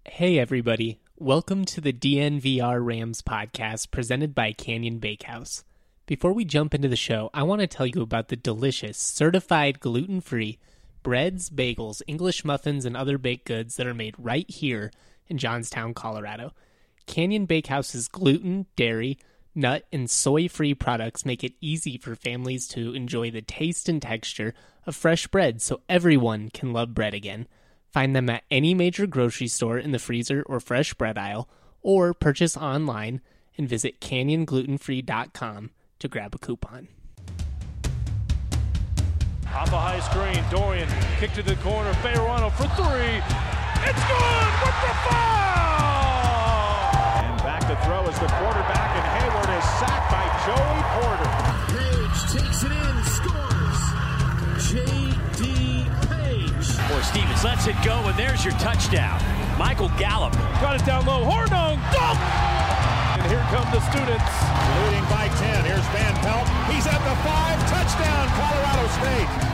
Hey everybody, welcome to the DNVR Rams podcast presented by Canyon Bakehouse. Before we jump into the show, I want to tell you about the delicious, certified gluten-free breads, bagels, English muffins, and other baked goods that are made right here in Johnstown, Colorado. Canyon Bakehouse's gluten, dairy, nut, and soy-free products make it easy for families to enjoy the taste and texture of fresh bread so everyone can love bread again. Find them at any major grocery store in the freezer or fresh bread aisle, or purchase online and visit canyonglutenfree.com to grab a coupon. Off a high screen, Dorian, kick to the corner, Fayerano for three. It's good with the foul! And back to throw is the quarterback, and Hayward is sacked by Joey Porter. Page takes it in, scores. J.D. Or Stevens lets it go, and there's your touchdown. Michael Gallup. Got it down low, Hornung, dunk! And here come the students. Leading by 10, here's Van Pelt. He's at the 5, touchdown, Colorado State.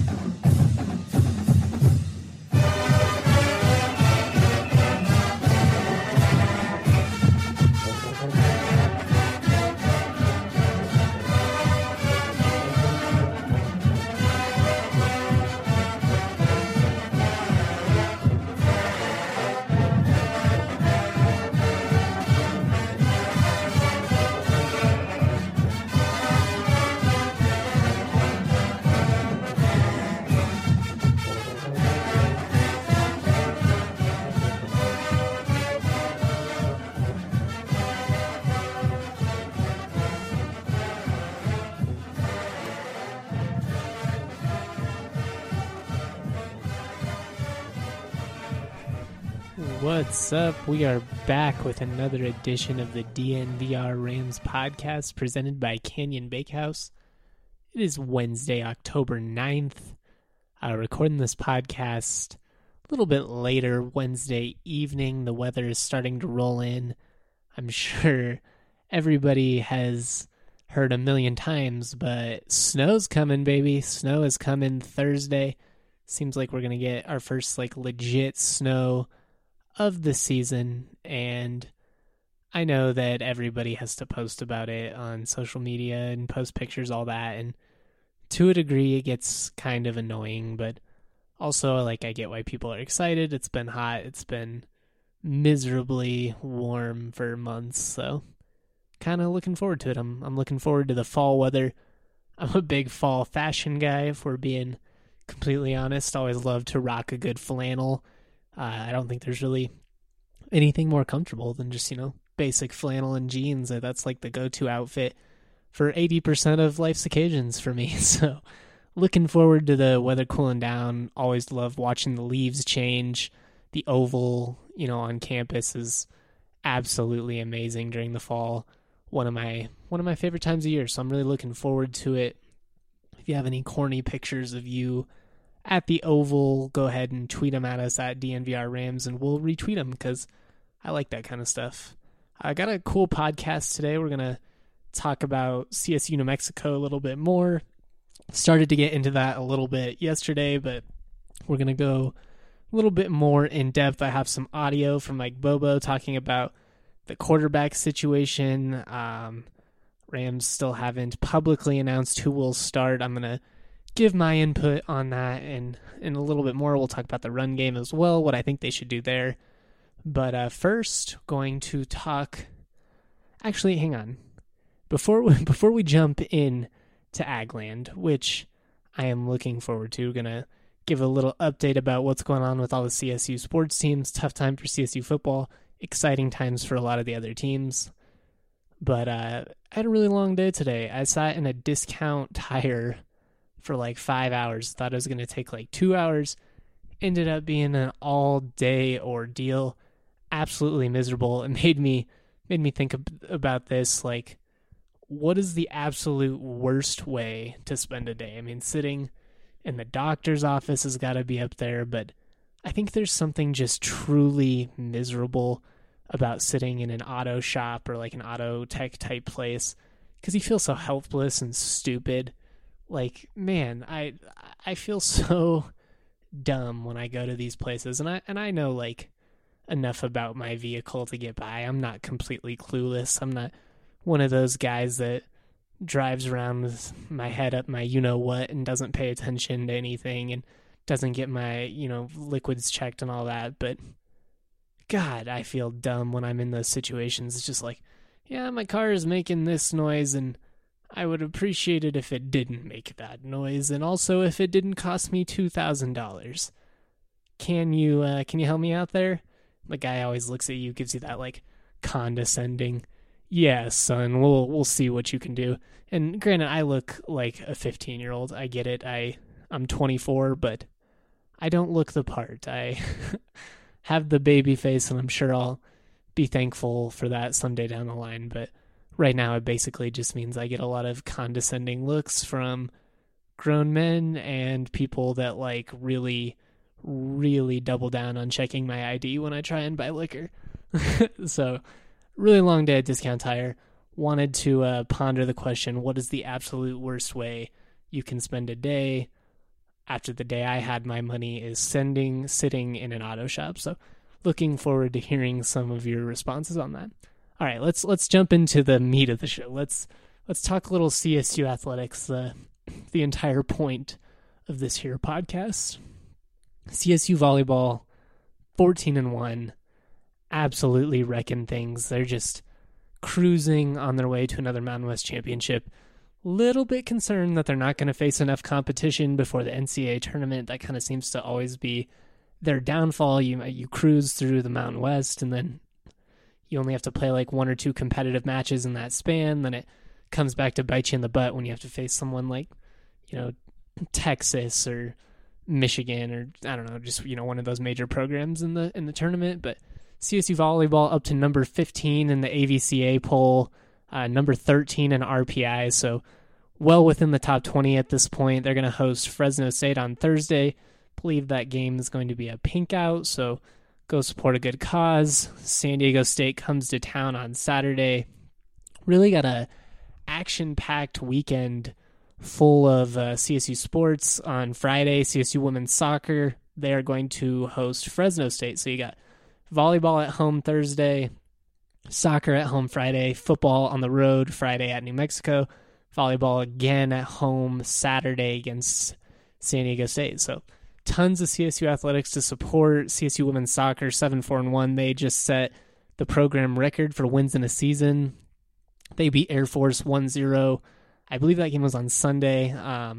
What's up? We are back with another edition of the DNVR Rams podcast presented by Canyon Bakehouse. It is Wednesday, October 9th. Recording this podcast a little bit later, Wednesday evening. The weather is starting to roll in. I'm sure everybody has heard a million times, but snow's coming, baby. Snow is coming Thursday. Seems like we're going to get our first legit snow of the season, and I know that everybody has to post about it on social media and post pictures, all that, and to a degree it gets kind of annoying, but also I get why people are excited. It's been hot, it's been miserably warm for months, so kind of looking forward to it. I'm looking forward to the fall weather. I'm a big fall fashion guy, if we're being completely honest. Always love to rock a good flannel. I don't think there's really anything more comfortable than just, basic flannel and jeans. That's the go-to outfit for 80% of life's occasions for me. So looking forward to the weather cooling down. Always love watching the leaves change. The oval, on campus is absolutely amazing during the fall. One of my favorite times of year. So I'm really looking forward to it. If you have any corny pictures of you at the Oval, go ahead and tweet them at us at DNVR Rams, and we'll retweet them because I like that kind of stuff. I got a cool podcast today. We're going to talk about CSU New Mexico a little bit more. Started to get into that a little bit yesterday, but we're going to go a little bit more in depth. I have some audio from Mike Bobo talking about the quarterback situation. Rams still haven't publicly announced who will start. I'm going to give my input on that, and in a little bit more we'll talk about the run game as well, what I think they should do there. But first, going to talk. Actually, hang on. Before we jump in to Agland, which I am looking forward to, gonna give a little update about what's going on with all the CSU sports teams. Tough time for CSU football. Exciting times for a lot of the other teams. But I had a really long day today. I sat in a discount tire for 5 hours. Thought it was going to take 2 hours. Ended up being an all-day ordeal. Absolutely miserable. It made me think about this. What is the absolute worst way to spend a day? I mean, sitting in the doctor's office has got to be up there, but I think there's something just truly miserable about sitting in an auto shop or an auto tech type place because you feel so helpless and stupid. Man, I feel so dumb when I go to these places, and I know enough about my vehicle to get by. I'm not completely clueless. I'm not one of those guys that drives around with my head up my you-know-what and doesn't pay attention to anything and doesn't get my, liquids checked and all that. But God, I feel dumb when I'm in those situations. It's just like, yeah, my car is making this noise and I would appreciate it if it didn't make that noise, and also if it didn't cost me $2,000. Can you help me out there? The guy always looks at you, gives you that like condescending, yeah, son, we'll see what you can do. And granted, I look like a 15-year-old. I get it. I'm 24, but I don't look the part. I have the baby face, and I'm sure I'll be thankful for that someday down the line. But right now, it basically just means I get a lot of condescending looks from grown men and people that like really, really double down on checking my ID when I try and buy liquor. So, really long day at Discount Tire. Wanted to ponder the question, what is the absolute worst way you can spend a day after the day I had my money is sitting in an auto shop? So, looking forward to hearing some of your responses on that. All right, let's jump into the meat of the show. Let's talk a little CSU athletics, the entire point of this here podcast. CSU volleyball, 14-1, absolutely wrecking things. They're just cruising on their way to another Mountain West championship. Little bit concerned that they're not going to face enough competition before the NCAA tournament. That kind of seems to always be their downfall. You cruise through the Mountain West, and then you only have to play like one or two competitive matches in that span. Then it comes back to bite you in the butt when you have to face someone like, Texas or Michigan or I don't know, just one of those major programs in the tournament. But CSU volleyball up to number 15 in the AVCA poll, number 13 in RPI, so well within the top 20 at this point. They're going to host Fresno State on Thursday. I believe that game is going to be a pink out, so go support a good cause. San Diego State comes to town on Saturday. Really got a action-packed weekend full of CSU sports. On Friday, CSU women's soccer, they are going to host Fresno State. So you got volleyball at home Thursday, soccer at home Friday, football on the road Friday at New Mexico, volleyball again at home Saturday against San Diego State. So tons of CSU athletics to support. CSU women's soccer, 7-4-1. They just set the program record for wins in a season. They beat Air Force 1-0. I believe that game was on Sunday.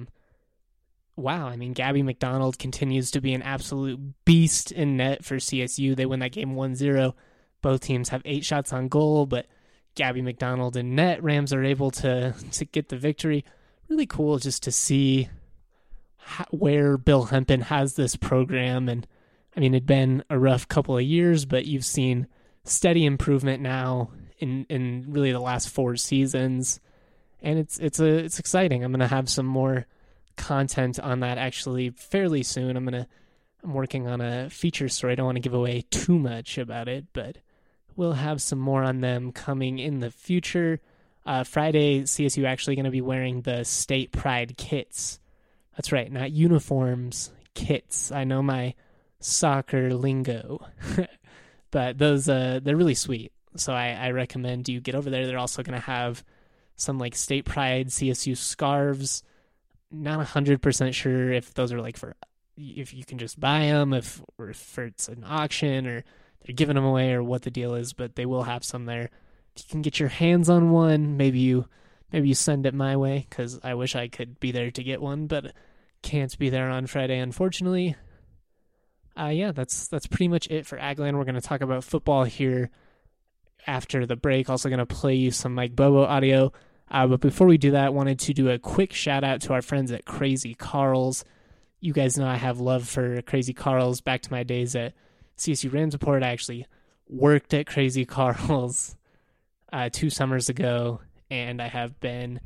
Wow, I mean, Gabby McDonald continues to be an absolute beast in net for CSU. They win that game 1-0. Both teams have 8 shots on goal, but Gabby McDonald in net. Rams are able to get the victory. Really cool just to see where Bill Hempen has this program. And I mean, it'd been a rough couple of years, but you've seen steady improvement now in really the last 4 seasons. And it's exciting. I'm going to have some more content on that actually fairly soon. I'm working on a feature story. I don't want to give away too much about it, but we'll have some more on them coming in the future. Friday, CSU actually going to be wearing the State Pride kits. That's right, not uniforms, kits. I know my soccer lingo, but those they're really sweet. So I recommend you get over there. They're also going to have some like State Pride CSU scarves. Not 100% sure if those are like if you can just buy them, or if it's an auction or they're giving them away or what the deal is, but they will have some there. If you can get your hands on one, maybe you send it my way, because I wish I could be there to get one, but can't be there on Friday, unfortunately. Yeah, that's pretty much it for Agland. We're going to talk about football here after the break. Also going to play you some Mike Bobo audio. But before we do that, I wanted to do a quick shout out to our friends at Crazy Carl's. You guys know I have love for Crazy Carl's. Back to my days at CSU Rams Report, I actually worked at Crazy Carl's 2 summers ago, and I've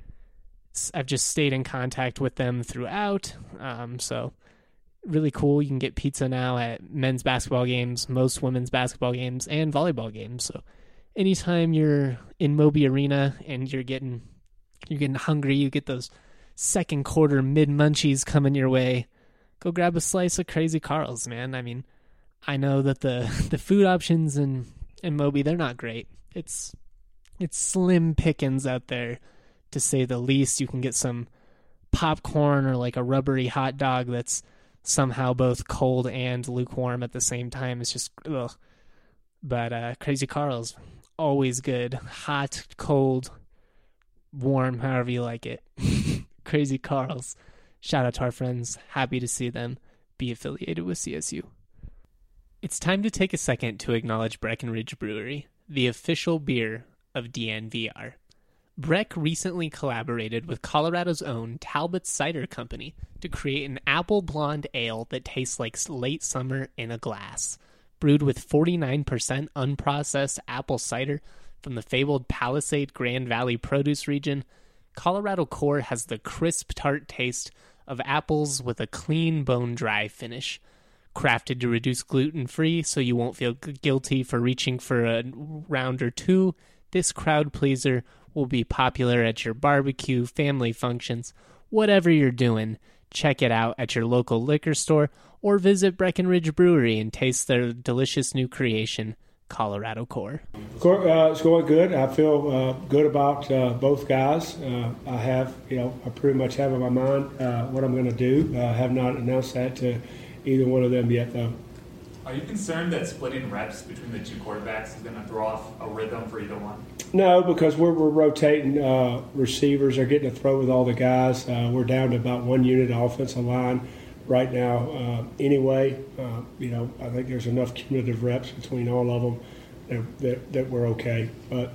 just stayed in contact with them throughout. So really cool. You can get pizza now at men's basketball games, most women's basketball games, and volleyball games. So anytime you're in Moby Arena and you're getting hungry, you get those second quarter mid munchies coming your way, go grab a slice of Crazy Carl's, man. I mean, I know that the food options in Moby, they're not great. It's slim pickings out there, to say the least. You can get some popcorn or like a rubbery hot dog that's somehow both cold and lukewarm at the same time. It's just ugh. But Crazy Carl's always good. Hot, cold, warm, however you like it. Crazy Carl's. Shout out to our friends. Happy to see them be affiliated with CSU. It's time to take a second to acknowledge Breckenridge Brewery, the official beer of DNVR. Breck recently collaborated with Colorado's own Talbot Cider Company to create an apple blonde ale that tastes like late summer in a glass. Brewed with 49% unprocessed apple cider from the fabled Palisade Grand Valley produce region, Colorado Core has the crisp, tart taste of apples with a clean, bone-dry finish. Crafted to reduce gluten-free so you won't feel guilty for reaching for a round or two, this crowd pleaser will be popular at your barbecue, family functions, whatever you're doing. Check it out at your local liquor store or visit Breckenridge Brewery and taste their delicious new creation, Colorado Core. It's going good. I feel good about both guys. I pretty much have in my mind what I'm going to do. I have not announced that to either one of them yet, though. Are you concerned that splitting reps between the two quarterbacks is going to throw off a rhythm for either one? No, because we're rotating receivers. They're getting to throw with all the guys. We're down to about one unit of offensive line right now. Anyway, I think there's enough cumulative reps between all of them that we're okay. But,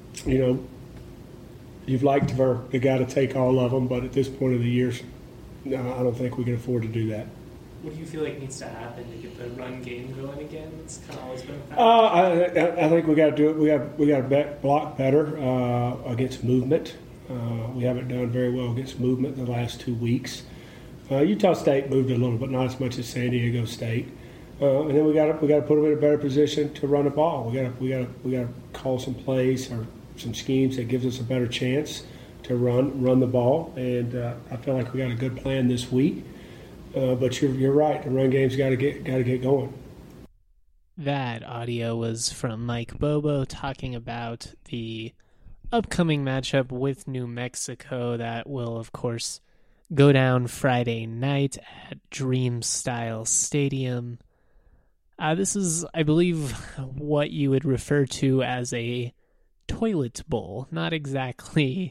you'd like for the guy to take all of them, but at this point of the year, no, I don't think we can afford to do that. What do you feel like needs to happen to get the run game going again? It's kind of always been a factor. I think we got to do it. We got to block better against movement. We haven't done very well against movement the last 2 weeks. Utah State moved a little, but not as much as San Diego State. And then we got to put them in a better position to run the ball. We got to call some plays or some schemes that gives us a better chance to run the ball. And I feel like we got a good plan this week. But you're right. The run game's got to get going. That audio was from Mike Bobo talking about the upcoming matchup with New Mexico that will, of course, go down Friday night at Dream Style Stadium. This is, I believe, what you would refer to as a toilet bowl. Not exactly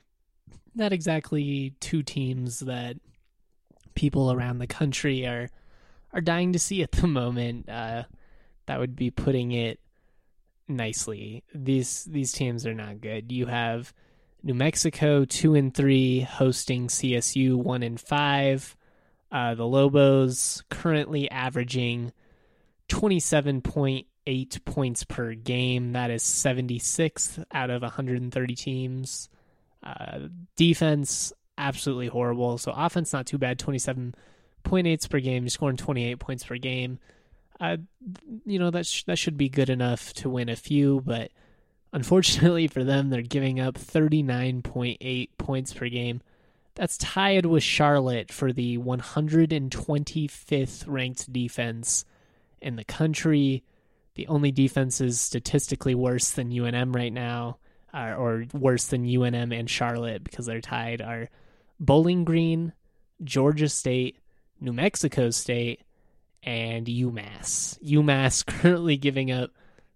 two teams that people around the country are dying to see at the moment. That would be putting it nicely. These teams are not good. You have New Mexico 2-3 hosting CSU 1-5. The Lobos currently averaging 27.8 points per game. That is 76th out of 130 teams. Defense, absolutely horrible. So offense, not too bad. 27.8 per game. You're scoring 28 points per game. That should be good enough to win a few, but unfortunately for them, they're giving up 39.8 points per game. That's tied with Charlotte for the 125th ranked defense in the country. The only defenses statistically worse than UNM right now, or worse than UNM and Charlotte because they're tied, are Bowling Green, Georgia State, New Mexico State, and UMass. UMass currently giving up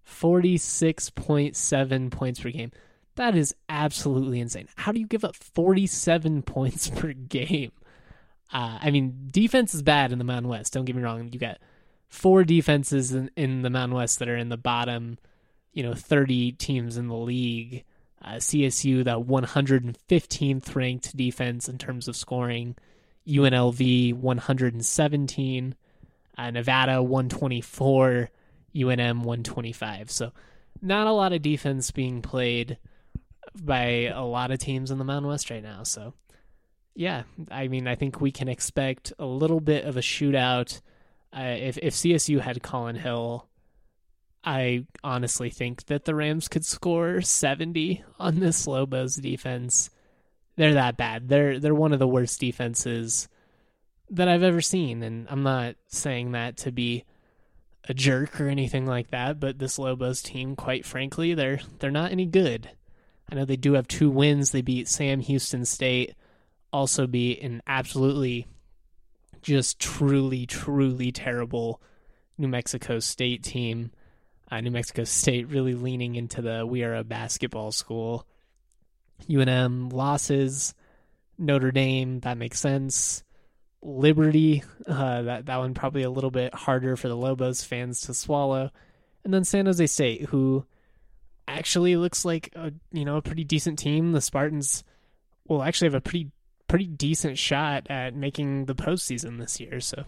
46.7 points per game. That is absolutely insane. How do you give up 47 points per game? Defense is bad in the Mountain West. Don't get me wrong. You got 4 defenses in the Mountain West that are in the bottom, 30 teams in the league. CSU, the 115th ranked defense in terms of scoring. UNLV, 117. Nevada, 124. UNM, 125. So not a lot of defense being played by a lot of teams in the Mountain West right now. So, yeah, I think we can expect a little bit of a shootout. If CSU had Colin Hill, I honestly think that the Rams could score 70 on this Lobos defense. They're that bad. They're one of the worst defenses that I've ever seen, and I'm not saying that to be a jerk or anything like that, but this Lobos team, quite frankly, they're not any good. I know they do have 2 wins. They beat Sam Houston State, also beat an absolutely just truly, truly terrible New Mexico State team. New Mexico State really leaning into the we are a basketball school. UNM losses. Notre Dame, that makes sense. Liberty, that one probably a little bit harder for the Lobos fans to swallow. And then San Jose State, who actually looks like a pretty decent team. The Spartans will actually have a pretty decent shot at making the postseason this year. So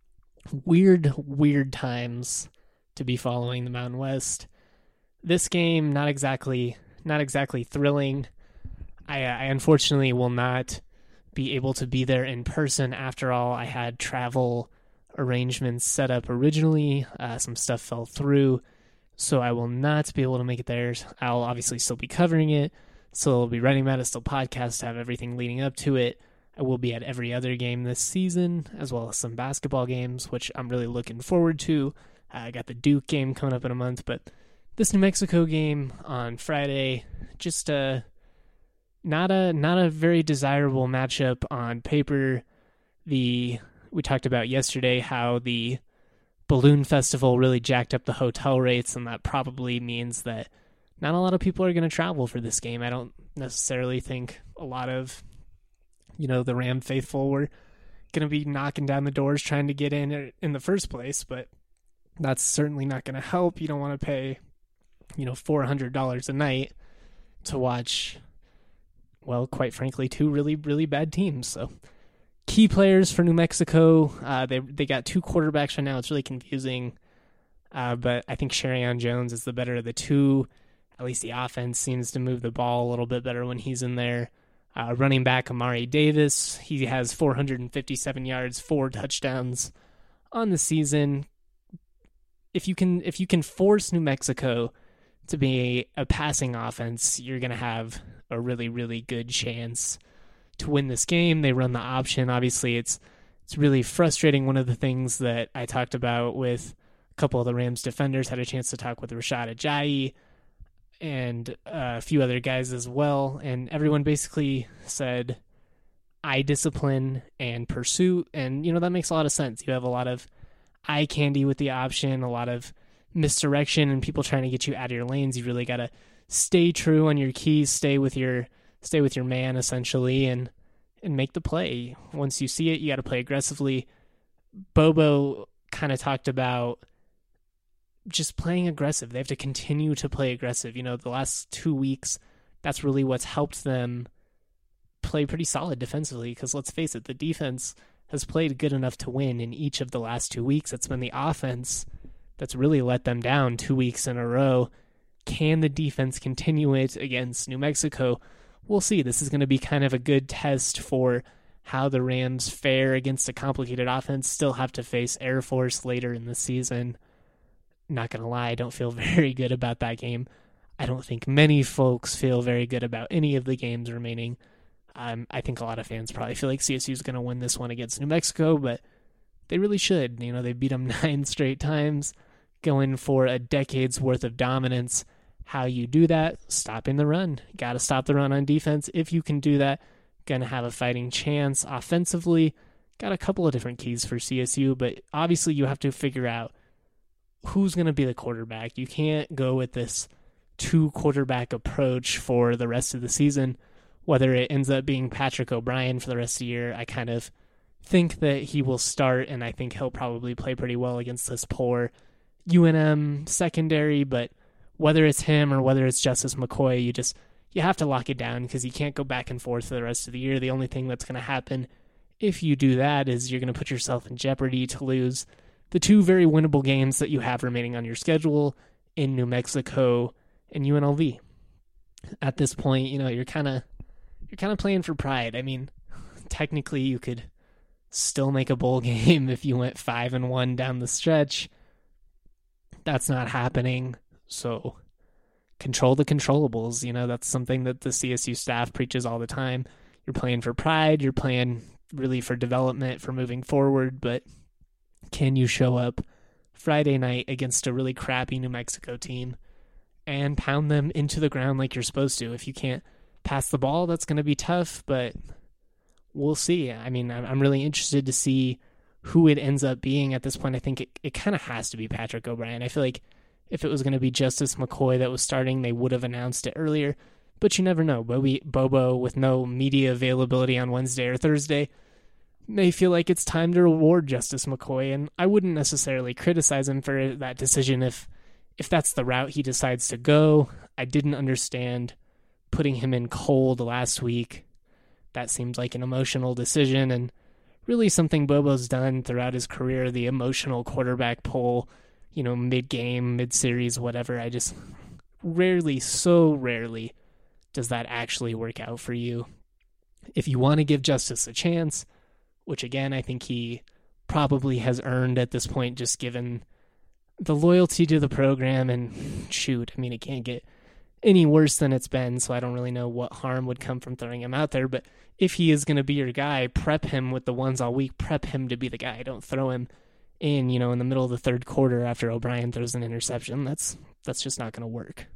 weird times to be following the Mountain West. This game, not exactly thrilling. I unfortunately will not be able to be there in person. After all, I had travel arrangements set up originally. Some stuff fell through, so I will not be able to make it there. I'll obviously still be covering it, still be writing about it, still podcast, have everything leading up to it. I will be at every other game this season, as well as some basketball games, which I'm really looking forward to. I got the Duke game coming up in a month, but this New Mexico game on Friday, just not a very desirable matchup on paper. We talked about yesterday how the Balloon Festival really jacked up the hotel rates, and that probably means that not a lot of people are going to travel for this game. I don't necessarily think a lot of the Ram faithful were going to be knocking down the doors trying to get in the first place, but that's certainly not going to help. You don't want to pay $400 a night to watch, well, quite frankly, 2 really, really bad teams. So key players for New Mexico, they got 2 quarterbacks right now. It's really confusing, but I think Sherrion Jones is the better of the 2. At least the offense seems to move the ball a little bit better when he's in there. Running back Amari Davis, he has 457 yards, 4 touchdowns on the season. If you can force New Mexico to be a passing offense, you're going to have a really, really good chance to win this game. They run the option. Obviously, it's really frustrating. One of the things that I talked about with a couple of the Rams defenders, had a chance to talk with Rashad Ajayi and a few other guys as well, and everyone basically said eye discipline and pursuit, and that makes a lot of sense. You have a lot of eye candy with the option, a lot of misdirection, and people trying to get you out of your lanes. You really got to stay true on your keys, stay with your man essentially, and make the play. Once you see it, you got to play aggressively. Bobo kind of talked about just playing aggressive. They have to continue to play aggressive. The last 2 weeks, that's really what's helped them play pretty solid defensively, because let's face it, the defense has played good enough to win in each of the last 2 weeks. It's been the offense that's really let them down 2 weeks in a row. Can the defense continue it against New Mexico? We'll see. This is going to be kind of a good test for how the Rams fare against a complicated offense. Still have to face Air Force later in the season. Not going to lie, I don't feel very good about that game. I don't think many folks feel very good about any of the games remaining. I think a lot of fans probably feel like CSU is going to win this one against New Mexico, but they really should. They beat them 9 straight times, going for a decade's worth of dominance. How you do that? Stopping the run. Got to stop the run on defense. If you can do that, going to have a fighting chance. Offensively, got a couple of different keys for CSU, but obviously you have to figure out who's going to be the quarterback. You can't go with this 2-quarterback approach for the rest of the season. Whether it ends up being Patrick O'Brien for the rest of the year, I kind of think that he will start, and I think he'll probably play pretty well against this poor UNM secondary, but whether it's him or whether it's Justice McCoy, you have to lock it down, because you can't go back and forth for the rest of the year. The only thing that's going to happen if you do that is you're going to put yourself in jeopardy to lose the 2 very winnable games that you have remaining on your schedule in New Mexico and UNLV. At this point, you're kind of playing for pride. I mean, technically you could still make a bowl game if you went 5-1 down the stretch. That's not happening. So control the controllables. That's something that the CSU staff preaches all the time. You're playing for pride. You're playing really for development, for moving forward. But can you show up Friday night against a really crappy New Mexico team and pound them into the ground like you're supposed to. If you can't pass the ball, that's going to be tough, but we'll see. I mean, I'm really interested to see who it ends up being at this point. I think it kind of has to be Patrick O'Brien. I feel like if it was going to be Justice McCoy that was starting, they would have announced it earlier, but you never know. Bobo, with no media availability on Wednesday or Thursday, may feel like it's time to reward Justice McCoy, and I wouldn't necessarily criticize him for that decision if that's the route he decides to go. I didn't understand putting him in cold last week. That seems like an emotional decision, and really something Bobo's done throughout his career, the emotional quarterback pull, mid-game, mid-series, whatever. I just so rarely does that actually work out for you. If you want to give Justice a chance, which again I think he probably has earned at this point, just given the loyalty to the program, and shoot, I mean, it can't get any worse than it's been, so I don't really know what harm would come from throwing him out there. But if he is going to be your guy, prep him with the ones all week, prep him to be the guy. Don't throw him in, in the middle of the third quarter after O'Brien throws an interception. That's just not going to work.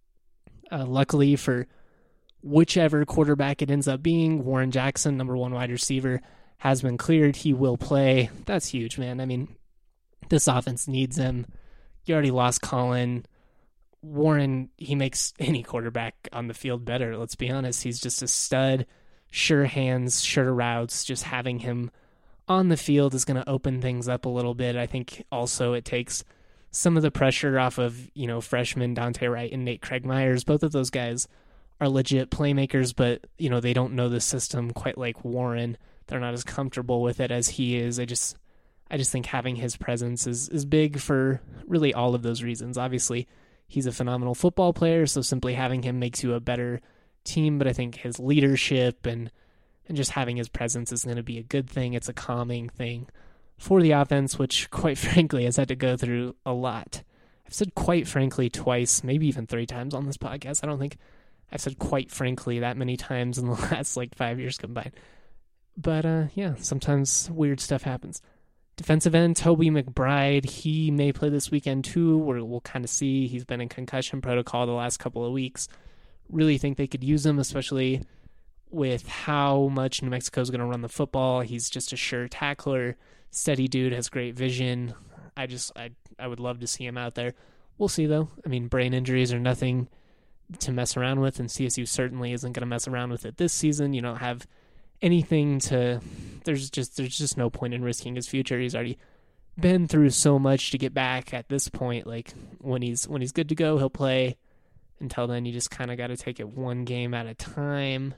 Luckily for whichever quarterback it ends up being, Warren Jackson, number 1 wide receiver, has been cleared. He will play. That's huge, man. I mean, this offense needs him. You already lost Colin. Warren, he makes any quarterback on the field better, let's be honest. He's just a stud, sure hands, sure routes. Just having him on the field is going to open things up a little bit. I think also it takes some of the pressure off of, freshmen Dante Wright and Nate Craig Myers. Both of those guys are legit playmakers, but, they don't know the system quite like Warren. They're not as comfortable with it as he is. I just think having his presence is big for really all of those reasons. Obviously, he's a phenomenal football player, so simply having him makes you a better team, but I think his leadership and just having his presence is going to be a good thing. It's a calming thing for the offense, which, quite frankly, has had to go through a lot. I've said quite frankly twice, maybe even 3 times on this podcast. I don't think I've said quite frankly that many times in the last 5 years combined. But yeah, sometimes weird stuff happens. Defensive end, Toby McBride, he may play this weekend too. We'll kind of see. He's been in concussion protocol the last couple of weeks. Really think they could use him, especially with how much New Mexico is going to run the football. He's just a sure tackler, steady dude, has great vision. I would love to see him out there. We'll see, though. I mean, brain injuries are nothing to mess around with, and CSU certainly isn't going to mess around with it this season. You don't have anything to... There's just no point in risking his future. He's already been through so much to get back at this point. When he's good to go, he'll play. Until then, you just kind of got to take it one game at a time.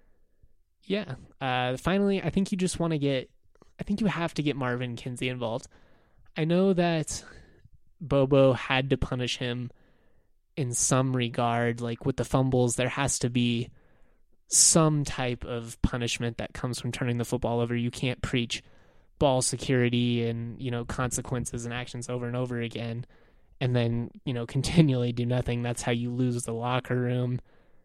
Yeah. Finally, I think you have to get Marvin Kinsey involved. I know that Bobo had to punish him in some regard, with the fumbles. There has to be some type of punishment that comes from turning the football over. You can't preach ball security and, consequences and actions over and over again and then, continually do nothing. That's how you lose the locker room.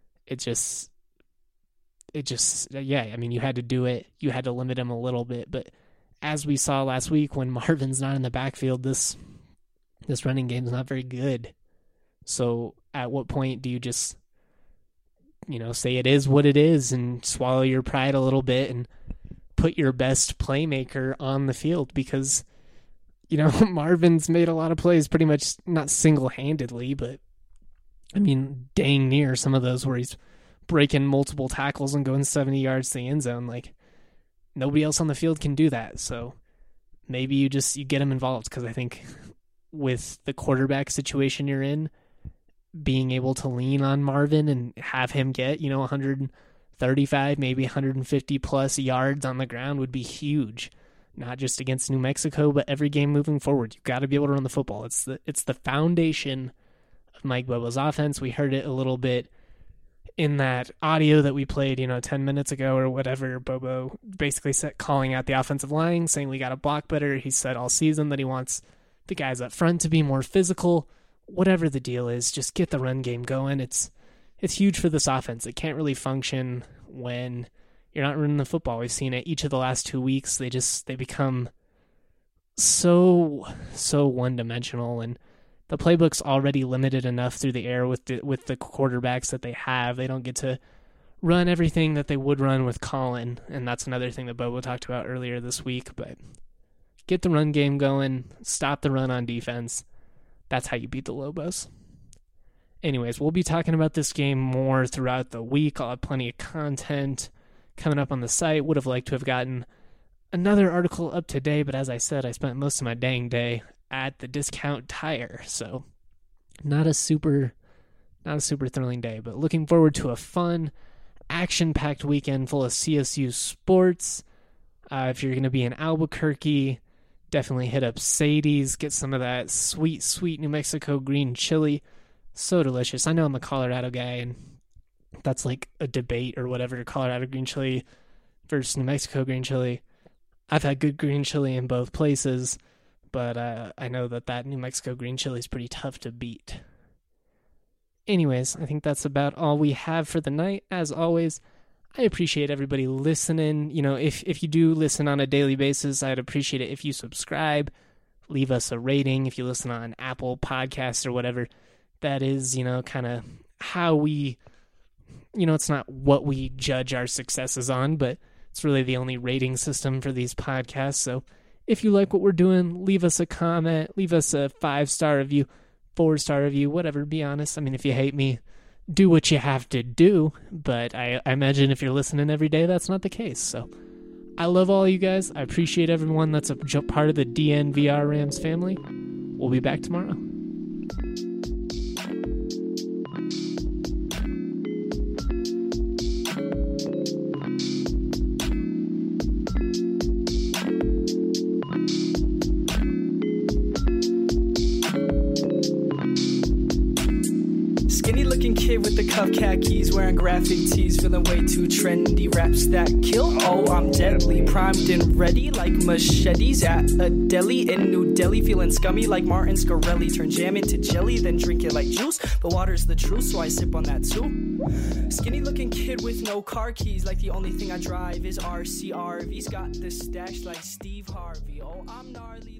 Yeah, I mean, you had to do it. You had to limit him a little bit. But as we saw last week, when Marvin's not in the backfield, this running game is not very good. So at what point do you just, say it is what it is and swallow your pride a little bit and put your best playmaker on the field? Because, Marvin's made a lot of plays pretty much not single-handedly, but I mean, dang near some of those where he's breaking multiple tackles and going 70 yards to the end zone. Nobody else on the field can do that. So maybe you get him involved, because I think with the quarterback situation you're in, being able to lean on Marvin and have him get, 135, maybe 150 plus yards on the ground would be huge. Not just against New Mexico, but every game moving forward. You've got to be able to run the football. It's the foundation of Mike Bobo's offense. We heard it a little bit in that audio that we played, 10 minutes ago or whatever. Bobo basically calling out the offensive line, saying we got to block better. He said all season that he wants the guys up front to be more physical. Whatever the deal is, just get the run game going. It's huge for this offense. It can't really function when you're not running the football. We've seen it each of the last 2 weeks. They become so one-dimensional, and the playbook's already limited enough through the air with the quarterbacks that they have. They don't get to run everything that they would run with Colin, and that's another thing that Bobo talked about earlier this week. But get the run game going, stop the run on defense. That's how you beat the Lobos. Anyways, we'll be talking about this game more throughout the week. I'll have plenty of content coming up on the site. Would have liked to have gotten another article up today, but as I said, I spent most of my dang day at the Discount Tire, so not a super thrilling day, but looking forward to a fun, action-packed weekend full of CSU sports. If you're going to be in Albuquerque, definitely hit up Sadie's, get some of that sweet New Mexico green chili. So delicious. I know I'm a Colorado guy, and that's like a debate or whatever, Colorado green chili versus New Mexico green chili. I've had good green chili in both places, but I know that New Mexico green chili is pretty tough to beat. Anyways, I think that's about all we have for the night. As always, I appreciate everybody listening. You know, if you do listen on a daily basis, I'd appreciate it if you subscribe, leave us a rating. If you listen on Apple Podcasts or whatever, that is, you know, kind of how we, you know, it's not what we judge our successes on, but it's really the only rating system for these podcasts. So if you like what we're doing, leave us a comment, leave us a 5-star review, 4-star review, whatever, be honest. I mean, if you hate me, do what you have to do, but I imagine if you're listening every day, that's not the case. So I love all you guys. I appreciate everyone that's a part of the DNVR Rams family. We'll be back tomorrow. Kid with the cuff khakis, wearing graphic tees, feeling way too trendy. Raps that kill, oh I'm deadly, primed and ready like machetes at a deli in New Delhi, feeling scummy like Martin Scarelli. Turn jam into jelly, then drink it like juice, but water's the truth, so I sip on that too. Skinny looking kid with no car keys, like the only thing I drive is RCRV's got the stash like Steve Harvey. Oh I'm gnarly.